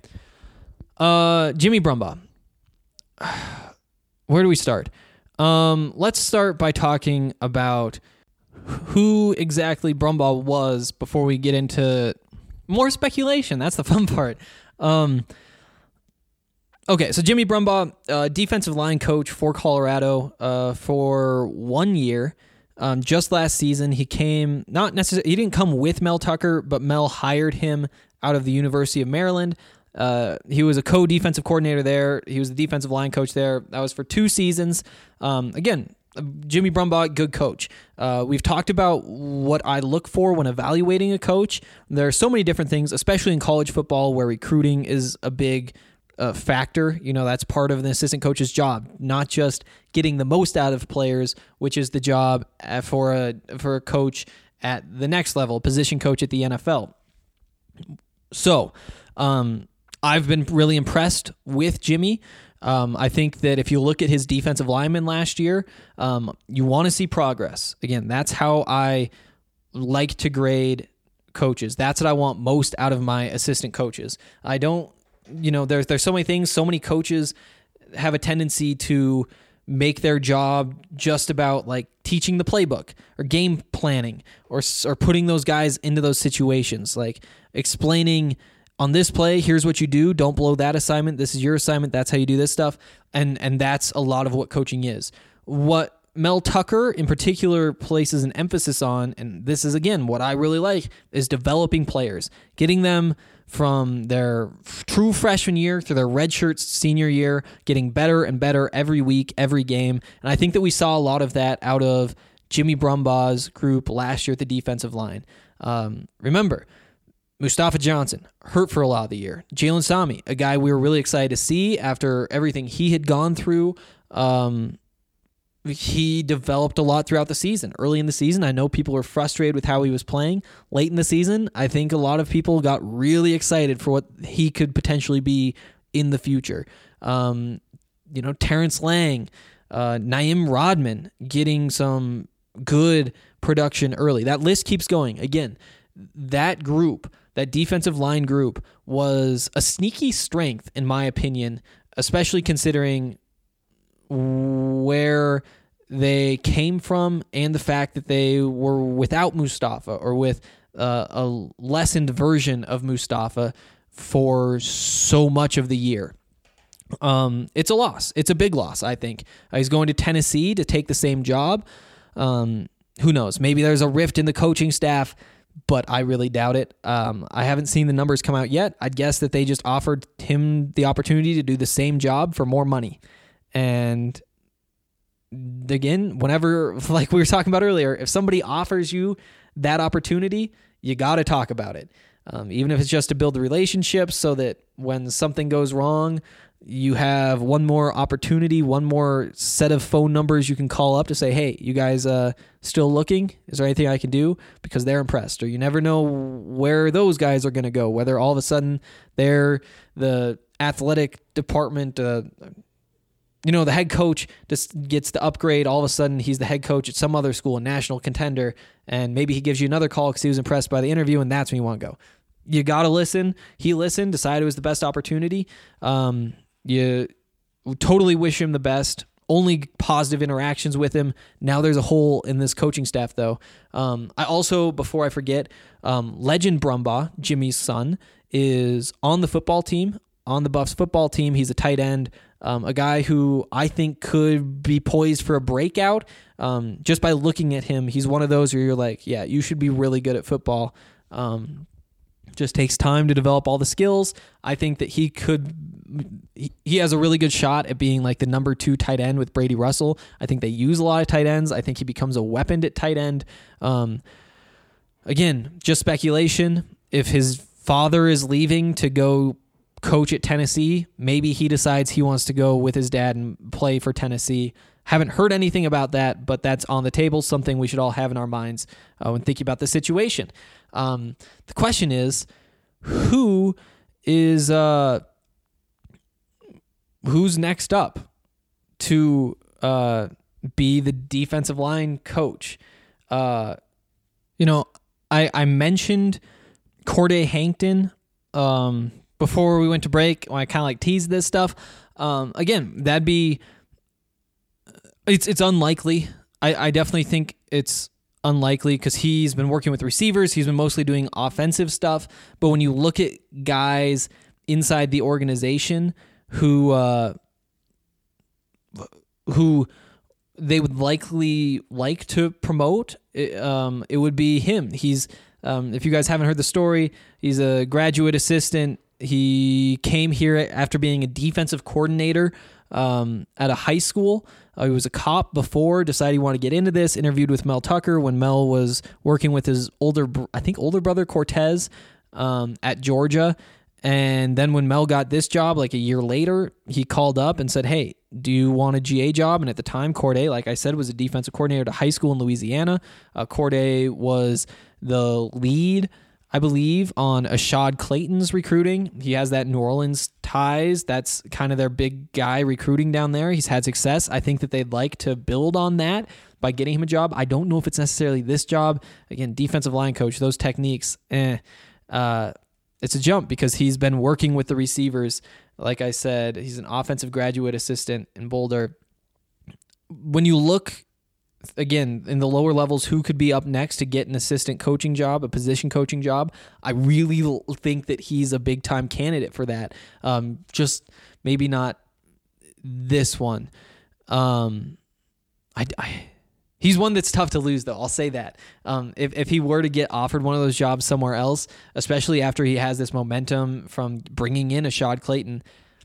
Uh, Jimmy Brumbaugh. Where do we start? Um, let's start by talking about who exactly Brumbaugh was before we get into more speculation. That's the fun part. Um, okay, so Jimmy Brumbaugh, uh, defensive line coach for Colorado uh, for one year. Um, just last season, he came, not necessarily, he didn't come with Mel Tucker, but Mel hired him out of the University of Maryland. Uh, he was a co-defensive coordinator there. He was the defensive line coach there. That was for two seasons. Um, again, Jimmy Brumbaugh, good coach. Uh, we've talked about what I look for when evaluating a coach. There are so many different things, especially in college football where recruiting is a big uh, factor. You know, that's part of an assistant coach's job, not just getting the most out of players, which is the job for a for a coach at the next level, position coach at the N F L. So, um, I've been really impressed with Jimmy. Um, I think that if you look at his defensive linemen last year, um, you want to see progress. Again, that's how I like to grade coaches. That's what I want most out of my assistant coaches. I don't, you know, there's there's so many things. So many coaches have a tendency to make their job just about like teaching the playbook or game planning or or putting those guys into those situations, like explaining, on this play, here's what you do. Don't blow that assignment. This is your assignment. That's how you do this stuff. And and that's a lot of what coaching is. What Mel Tucker in particular places an emphasis on, and this is, again, what I really like, is developing players, getting them from their true freshman year through their redshirt senior year, getting better and better every week, every game. And I think that we saw a lot of that out of Jimmy Brumbaugh's group last year at the defensive line. Um, remember, Mustafa Johnson, hurt for a lot of the year. Jalen Sami, a guy we were really excited to see after everything he had gone through. Um, he developed a lot throughout the season. Early in the season, I know people were frustrated with how he was playing. Late in the season, I think a lot of people got really excited for what he could potentially be in the future. Um, you know, Terrence Lang, uh, Naim Rodman getting some good production early. That list keeps going. Again, that group, that defensive line group, was a sneaky strength, in my opinion, especially considering where they came from and the fact that they were without Mustafa or with uh, a lessened version of Mustafa for so much of the year. Um, it's a loss. It's a big loss, I think. Uh, he's going to Tennessee to take the same job. Um, who knows? Maybe there's a rift in the coaching staff, but I really doubt it. Um, I haven't seen the numbers come out yet. I'd guess that they just offered him the opportunity to do the same job for more money. And again, whenever, like we were talking about earlier, if somebody offers you that opportunity, you got to talk about it. Um, even if it's just to build the relationships so that when something goes wrong, you have one more opportunity, one more set of phone numbers you can call up to say, hey, you guys uh, still looking? Is there anything I can do? Because they're impressed. Or you never know where those guys are going to go, whether all of a sudden they're the athletic department, uh, you know, the head coach just gets the upgrade. All of a sudden he's the head coach at some other school, a national contender, and maybe he gives you another call because he was impressed by the interview, and that's when you want to go. You got to listen. He listened, decided it was the best opportunity. Um, you totally wish him the best. Only positive interactions with him. Now there's a hole in this coaching staff, though. Um, I also, before I forget, um, Legend Brumbaugh, Jimmy's son, is on the football team, on the Buffs football team. He's a tight end, um, a guy who I think could be poised for a breakout. Um, just by looking at him, he's one of those where you're like, yeah, you should be really good at football. Um, just takes time to develop all the skills. I think that he could, he, he has a really good shot at being like the number two tight end with Brady Russell. I think they use a lot of tight ends. I think he becomes a weapon at tight end. Um, again, just speculation. If his father is leaving to go coach at Tennessee, maybe he decides he wants to go with his dad and play for Tennessee. Haven't heard anything about that, but that's on the table, something we should all have in our minds uh, when thinking about the situation. Um, the question is, who is uh, who's next up to uh, be the defensive line coach? Uh, you know, I, I mentioned Corday Hankton um, before we went to break, when I kind of like teased this stuff. Um, again, that'd be... It's it's unlikely. I, I definitely think it's unlikely because he's been working with receivers. He's been mostly doing offensive stuff. But when you look at guys inside the organization who uh, who they would likely like to promote, it, um, it would be him. He's um, if you guys haven't heard the story, he's a graduate assistant. He came here after being a defensive coordinator um, at a high school. Uh, he was a cop before, decided he wanted to get into this, interviewed with Mel Tucker when Mel was working with his older, I think older brother Cortez um, at Georgia. And then when Mel got this job, like a year later, he called up and said, hey, do you want a G A job? And at the time, Corday, like I said, was a defensive coordinator at a high school in Louisiana. Uh, Corday was the lead, I believe, on Ashad Clayton's recruiting. He has that New Orleans ties. That's kind of their big guy recruiting down there. He's had success. I think that they'd like to build on that by getting him a job. I don't know if it's necessarily this job. Again, defensive line coach, those techniques, eh, uh, it's a jump because he's been working with the receivers. Like I said, he's an offensive graduate assistant in Boulder. When you look, again, in the lower levels, who could be up next to get an assistant coaching job, a position coaching job, I really l- think that he's a big-time candidate for that. Um, just maybe not this one. Um, I, I, he's one that's tough to lose, though. I'll say that. Um, if, if he were to get offered one of those jobs somewhere else, especially after he has this momentum from bringing in Ashad Clayton,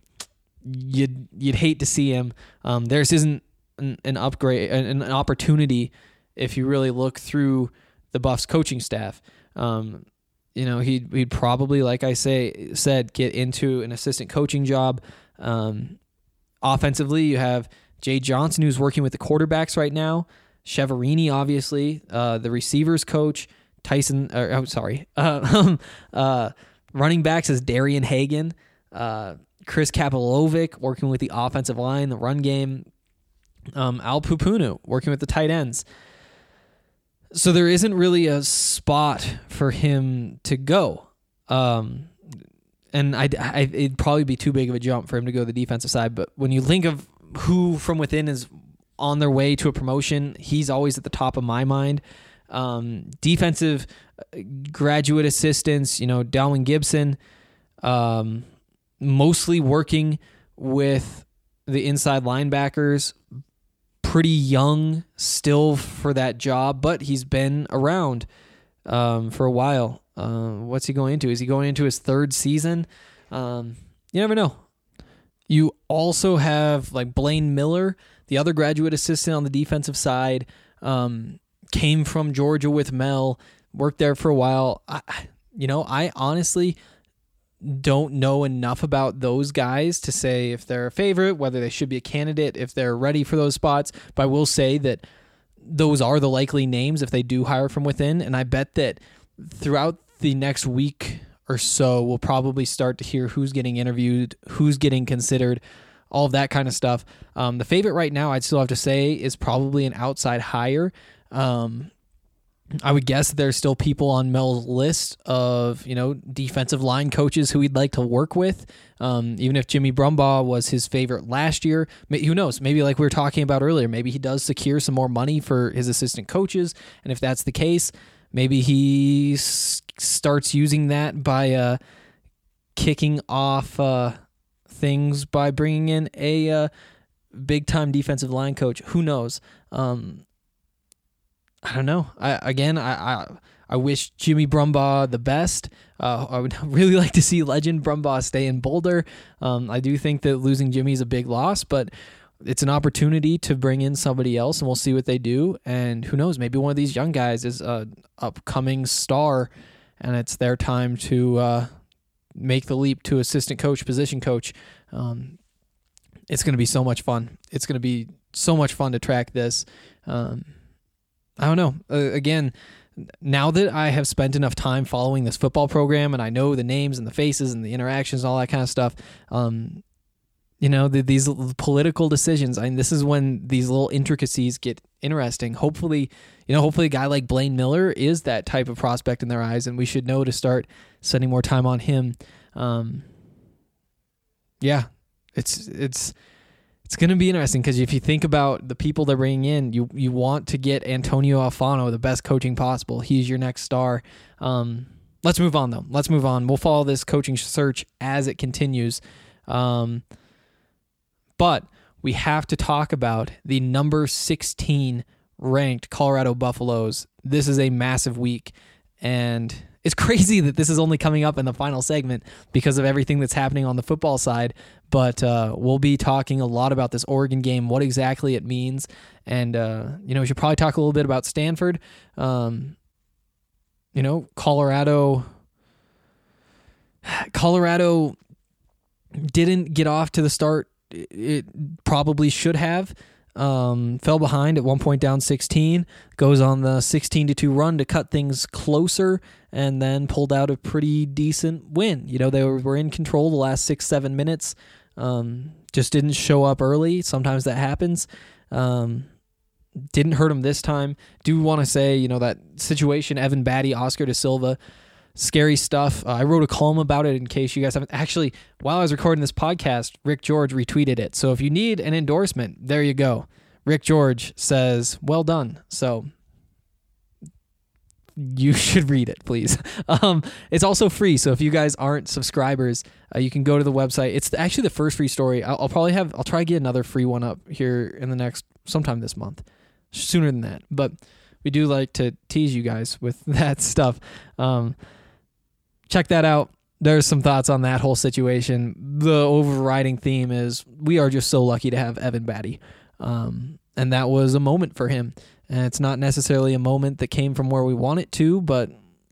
you'd, you'd hate to see him. Um, theirs isn't An, an upgrade, an, an opportunity. If you really look through the Buffs coaching staff, um, you know he'd he'd probably, like I say said, get into an assistant coaching job. Um, offensively, you have Jay Johnson, who's working with the quarterbacks right now. Cheverini, obviously, uh, the receivers coach. Tyson, or, oh sorry, uh, uh, running backs is Darian Hagan. Uh, Chris Kapilovic working with the offensive line, the run game. Um, Al Pupunu working with the tight ends. So there isn't really a spot for him to go. Um, and I, I, it'd probably be too big of a jump for him to go to the defensive side. But when you think of who from within is on their way to a promotion, he's always at the top of my mind. Um, defensive graduate assistants, you know, Dalvin Gibson, um, mostly working with the inside linebackers. Pretty young still for that job, but he's been around um, for a while. Uh, what's he going into? Is he going into his third season? Um, you never know. You also have like Blaine Miller, the other graduate assistant on the defensive side, um, came from Georgia with Mel, worked there for a while. I, you know, I honestly don't know enough about those guys to say if they're a favorite, whether they should be a candidate, if they're ready for those spots. But I will say that those are the likely names if they do hire from within. And I bet that throughout the next week or so, we'll probably start to hear who's getting interviewed, who's getting considered, all of that kind of stuff. Um, the favorite right now, I'd still have to say, is probably an outside hire. Um, I would guess there's still people on Mel's list of, you know, defensive line coaches who he'd like to work with. Um, even if Jimmy Brumbaugh was his favorite last year, who knows? Maybe like we were talking about earlier, maybe he does secure some more money for his assistant coaches. And if that's the case, maybe he s- starts using that by uh, kicking off uh, things by bringing in a uh, big-time defensive line coach. Who knows? Um, I don't know. I again, I, I I wish Jimmy Brumbaugh the best. Uh, I would really like to see legend Brumbaugh stay in Boulder. Um, I do think that losing Jimmy is a big loss, but it's an opportunity to bring in somebody else, and we'll see what they do. And who knows? Maybe one of these young guys is a upcoming star, and it's their time to uh, make the leap to assistant coach, position coach. Um, it's going to be so much fun. It's going to be so much fun to track this. Um, I don't know. Uh, again, now that I have spent enough time following this football program and I know the names and the faces and the interactions and all that kind of stuff, um, you know, the, these political decisions, I mean, this is when these little intricacies get interesting. Hopefully, you know, hopefully a guy like Blaine Miller is that type of prospect in their eyes, and we should know to start spending more time on him. Um, yeah, it's, it's, It's going to be interesting because if you think about the people they're bringing in, you you want to get Antonio Alfano the best coaching possible. He's your next star. Um, let's move on, though. Let's move on. We'll follow this coaching search as it continues. Um, but we have to talk about the number sixteen ranked Colorado Buffaloes. This is a massive week, and it's crazy that this is only coming up in the final segment because of everything that's happening on the football side. But uh, we'll be talking a lot about this Oregon game, what exactly it means. And, uh, you know, we should probably talk a little bit about Stanford. Um, you know, Colorado, Colorado didn't get off to the start it probably should have. Um, fell behind at one point, down sixteen, goes on the sixteen to two run to cut things closer, and then pulled out a pretty decent win. You know, they were, were in control the last six, seven minutes, um, just didn't show up early. Sometimes that happens. Um, didn't hurt them this time. Do want to say, you know, that situation, Evan Batty, Oscar Da Silva, scary stuff. Uh, I wrote a column about it in case you guys haven't. Actually, while I was recording this podcast, Rick George retweeted it. So if you need an endorsement, there you go. Rick George says, well done. So you should read it, please. Um, it's also free. So if you guys aren't subscribers, uh, you can go to the website. It's actually the first free story. I'll, I'll probably have, I'll try to get another free one up here in the next, sometime this month, sooner than that. But we do like to tease you guys with that stuff. Um, Check that out. There's some thoughts on that whole situation. The overriding theme is we are just so lucky to have Evan Batty. Um, and that was a moment for him. And it's not necessarily a moment that came from where we want it to, but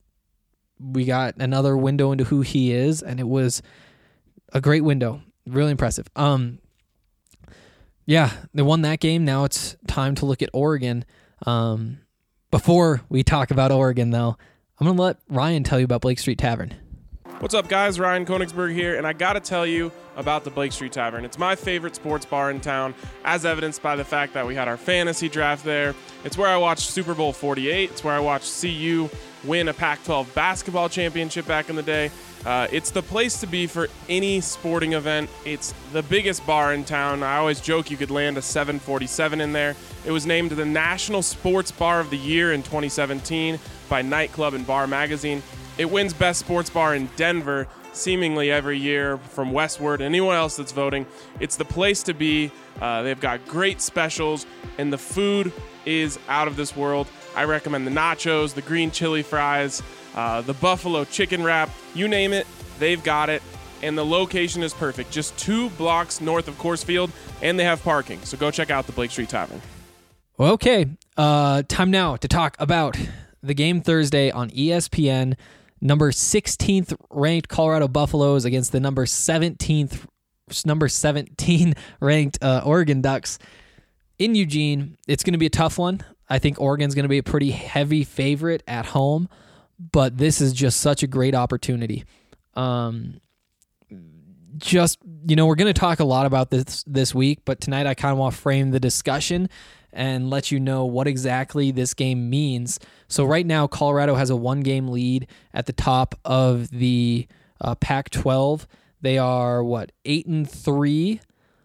we got another window into who he is, and it was a great window. Really impressive. Um, yeah, they won that game. Now it's time to look at Oregon. Um, before we talk about Oregon, though, I'm going to let Ryan tell you about Blake Street Tavern. What's up, guys? Ryan Koenigsberg here, and I got to tell you about the Blake Street Tavern. It's my favorite sports bar in town, as evidenced by the fact that we had our fantasy draft there. It's where I watched Super Bowl forty-eight. It's where I watched C U win a Pac twelve basketball championship back in the day. Uh, it's the place to be for any sporting event. It's the biggest bar in town. I always joke you could land a seven forty-seven in there. It was named the National Sports Bar of the Year in twenty seventeen by Nightclub and Bar Magazine. It wins Best Sports Bar in Denver seemingly every year from Westward. Anyone else that's voting, it's the place to be. Uh, they've got great specials, and the food is out of this world. I recommend the nachos, the green chili fries, uh, the buffalo chicken wrap, you name it, they've got it. And the location is perfect, just two blocks north of Coors Field, and they have parking. So go check out the Blake Street Tavern. Okay, uh, time now to talk about the game Thursday on E S P N. Number sixteenth ranked Colorado Buffaloes against the number seventeenth, number seventeen ranked uh, Oregon Ducks in Eugene. It's going to be a tough one. I think Oregon's going to be a pretty heavy favorite at home, but this is just such a great opportunity. Um, just, you know, we're going to talk a lot about this this week, but tonight I kind of want to frame the discussion and let you know what exactly this game means. So right now, Colorado has a one-game lead at the top of the uh, Pac twelve. They are, what, eight and three,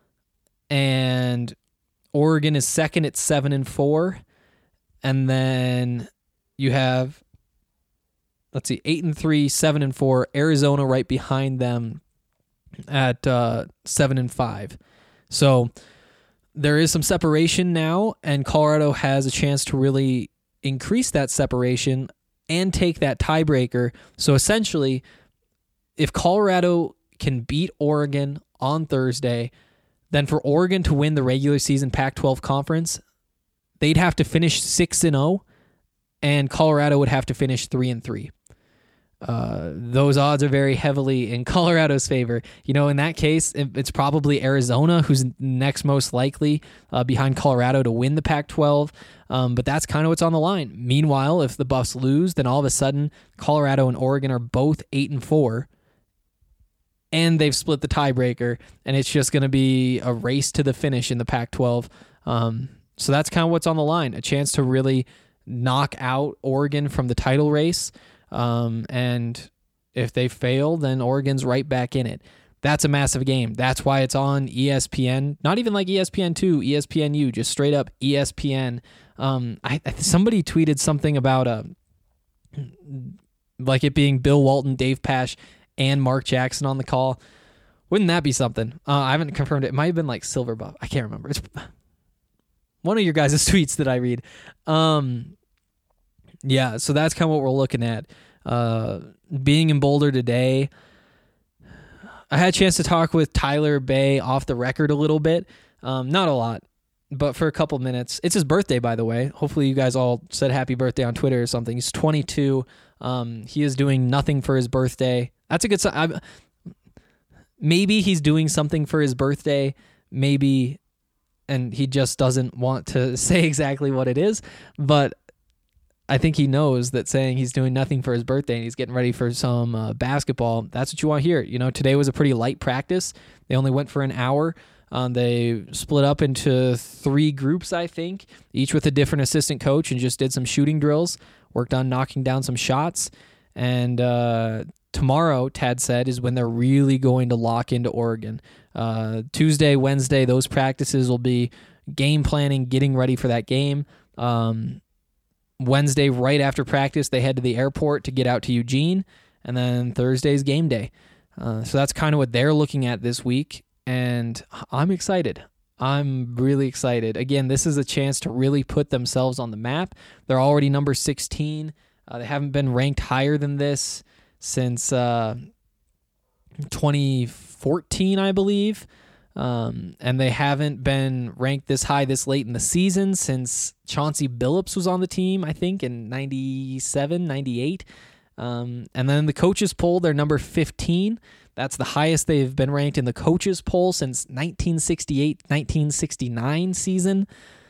and Oregon is second at seven and four, and then you have let's see, eight and three, seven and four. Arizona right behind them at uh, seven and five. So there is some separation now, and Colorado has a chance to really increase that separation and take that tiebreaker. So essentially, if Colorado can beat Oregon on Thursday, then for Oregon to win the regular season Pac twelve conference, they'd have to finish six and oh, and Colorado would have to finish three and three. Uh, those odds are very heavily in Colorado's favor. You know, in that case, it's probably Arizona who's next most likely uh, behind Colorado to win the Pac twelve. Um, but that's kind of what's on the line. Meanwhile, if the Buffs lose, then all of a sudden Colorado and Oregon are both eight and four, and they've split the tiebreaker, and it's just going to be a race to the finish in the Pac twelve. Um, so that's kind of what's on the line. A chance to really knock out Oregon from the title race. Um, and if they fail, then Oregon's right back in it. That's a massive game. That's why it's on E S P N. Not even like E S P N two, E S P N U, just straight up E S P N. Um, I, I somebody tweeted something about uh, like it being Bill Walton, Dave Pasch, and Mark Jackson on the call. Wouldn't that be something? Uh, I haven't confirmed it. It might have been like Silver Buff. I can't remember. It's one of your guys' tweets that I read. Um, yeah, so that's kind of what we're looking at. Uh, being in Boulder today, I had a chance to talk with Tyler Bay off the record a little bit. Um, not a lot, but for a couple minutes. It's his birthday, by the way. Hopefully you guys all said happy birthday on Twitter or something. He's twenty-two. Um, he is doing nothing for his birthday. That's a good sign. Maybe he's doing something for his birthday. Maybe, and he just doesn't want to say exactly what it is. But I think he knows that saying he's doing nothing for his birthday and he's getting ready for some uh, basketball, that's what you want to hear. You know, today was a pretty light practice. They only went for an hour. Um, they split up into three groups, I think, each with a different assistant coach, and just did some shooting drills, worked on knocking down some shots. And uh, tomorrow, Tad said, is when they're really going to lock into Oregon. Uh, Tuesday, Wednesday, those practices will be game planning, getting ready for that game. Um, Wednesday, right after practice, they head to the airport to get out to Eugene, and then Thursday's game day. Uh, so that's kind of what they're looking at this week, and I'm excited. I'm really excited. Again, this is a chance to really put themselves on the map. They're already number sixteen. Uh, they haven't been ranked higher than this since uh, twenty fourteen, I believe. Um, and they haven't been ranked this high this late in the season since Chauncey Billups was on the team, I think, in ninety-seven, ninety-eight. Um, and then the coaches poll, they're number fifteen. That's the highest they've been ranked in the coaches poll since nineteen sixty-eight, nineteen sixty-nine season.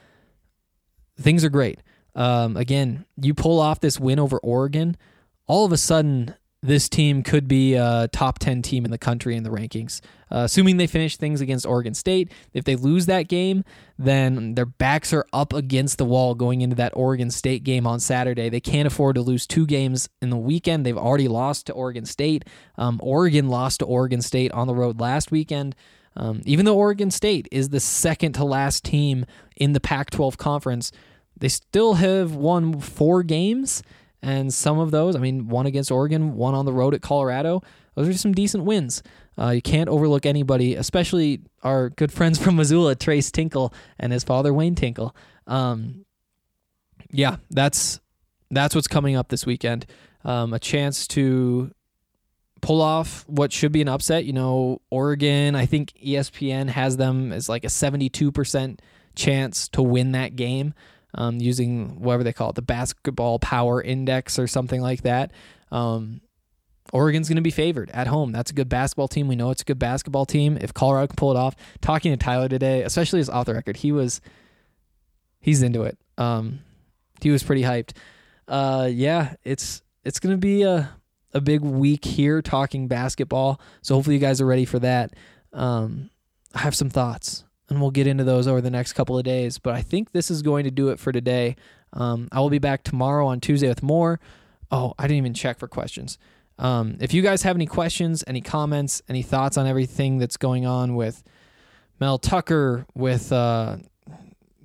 Things are great. Um, again, you pull off this win over Oregon, all of a sudden this team could be a top ten team in the country in the rankings, uh, assuming they finish things against Oregon State. If they lose that game, then their backs are up against the wall going into that Oregon State game on Saturday. They can't afford to lose two games in the weekend. They've already lost to Oregon State. Um, Oregon lost to Oregon State on the road last weekend. Um, even though Oregon State is the second to last team in the Pac twelve conference, they still have won four games. And some of those, I mean, one against Oregon, one on the road at Colorado. Those are some decent wins. Uh, you can't overlook anybody, especially our good friends from Missoula, Trace Tinkle and his father, Wayne Tinkle. Um, yeah, that's that's what's coming up this weekend. Um, a chance to pull off what should be an upset. You know, Oregon, I think E S P N has them as like a seventy-two percent chance to win that game. Um, using whatever they call it, the basketball power index or something like that. Um, Oregon's going to be favored at home. That's a good basketball team. We know it's a good basketball team. If Colorado can pull it off, talking to Tyler today, especially his off the record, he was, he's into it. Um, he was pretty hyped. Uh, yeah, it's, it's going to be a, a big week here talking basketball. So hopefully you guys are ready for that. Um, I have some thoughts, and we'll get into those over the next couple of days. But I think this is going to do it for today. Um, I will be back tomorrow on Tuesday with more. Oh, I didn't even check for questions. Um, if you guys have any questions, any comments, any thoughts on everything that's going on with Mel Tucker, with uh,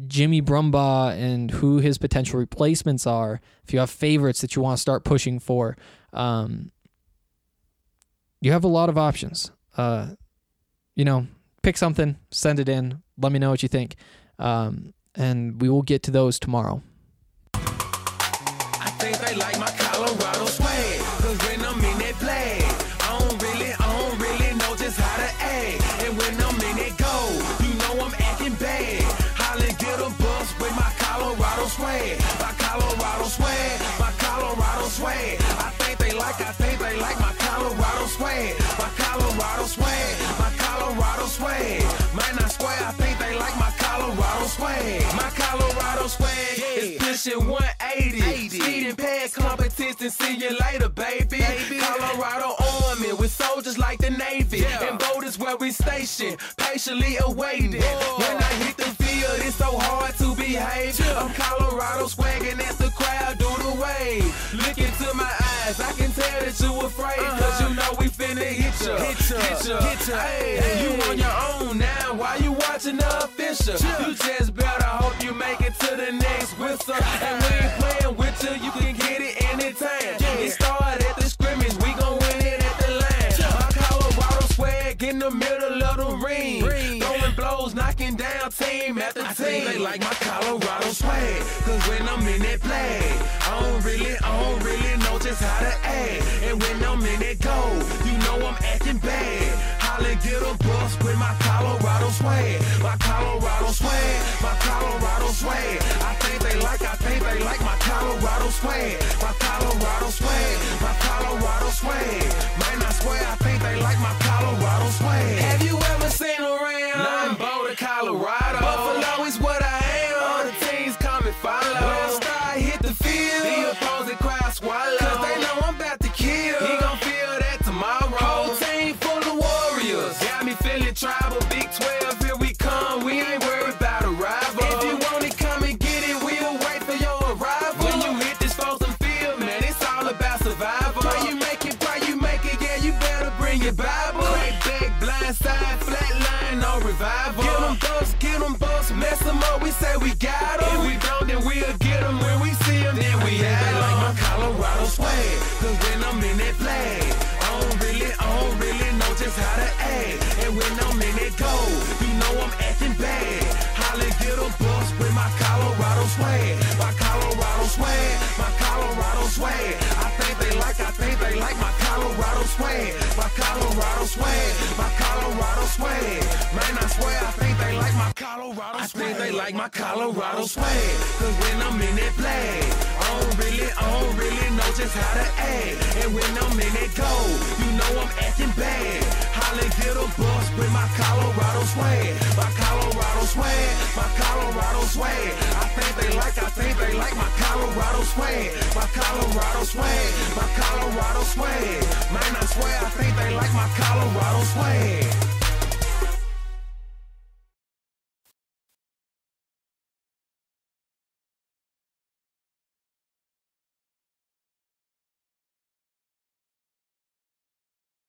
Jimmy Brumbaugh and who his potential replacements are, if you have favorites that you want to start pushing for, um, you have a lot of options. Uh, you know, pick something, send it in, let me know what you think, um, and we will get to those tomorrow. I think they like my Colorado swag, cause when I'm in that flag, I don't really, I don't really know just how to act. And when I'm in that gold, you know I'm acting bad. Holla, get a bus with my Colorado swag, my Colorado swag, my Colorado swag. I think they like, I think they like my Colorado swag, my Colorado swag, my Colorado swag. Man, I swear, I think they like my Colorado swag, my Colorado swag is pushing one eighty. Speeding past competition, see you later, baby. baby. Colorado Army with soldiers like the Navy. Yeah. And voters where we stationed, patiently awaiting. Whoa. When I hit the field, it's so hard to behave. Yeah. I'm Colorado swagging as the crowd do the wave. Look into my eyes, I can tell that you afraid. Uh-huh. Cause you know we finna hit ya, hit ya, hit ya, hit ya. Hey, hey. You on your own now, why you watching the official? Yeah. You just better hope you make it to the next whistle. And we ain't playing with you, you can get it anytime. Yeah. It started at the scrimmage, we gon' win it at the line. Yeah. My Colorado swag in the middle of the ring. ring. Throwing blows, knocking down team after team. I think they like my Colorado swag, cause when I'm in that flag, I don't really, I don't really know just how to act. And when I'm in that gold, you know I'm acting bad. Holla, get a bus with my Colorado swag, my Colorado swag, my Colorado swag. I think they like, I think they like my Colorado swag, my Colorado swag, my Colorado swag. Man, I swear, I think they like my Colorado swag. Have you ever seen around? Nothing Boulder, Colorado. Buffalo is what I am. All the teams come and follow. When I start hit the field, the opposing crowd swallow. Cause they know I'm about to kill. He gon' feel that tomorrow. Whole team full of warriors. Got me feeling tribal. Big twelve, here we come. We ain't worried about a rival. If you want it, come and get it. We'll wait for your arrival. When you hit this frozen field, man, it's all about survival. Why you make it, why you make it, yeah, you better bring your Bible. Crack back, blind side, flat line, no revival. Get them busts, get them busts, mess them up, we say we got them. If we don't, then we'll get them. When we see them, then we have them. Like my Colorado swag, cause when I'm in that flag, I don't really, I don't really know just how to act. And when I'm in that gold, you know I'm acting bad. Holla, get a bus with my Colorado swag, my Colorado swag, my Colorado swag. I think they like, I think they like my Colorado swag, my Colorado swag, my Colorado swag. Man, I swear, I think they like my Colorado swag. I think they like my Colorado swag, cause when I'm in that flag, I don't really, I don't really know just how to act. And when I'm in that gold, you know I'm acting bad. Holla, get a bus with my Colorado swag, my Colorado swag, my Colorado swag. I think they like, I think they like my Colorado swag, my Colorado swag, my Colorado swag. Man, I swear, I think they like my Colorado swag.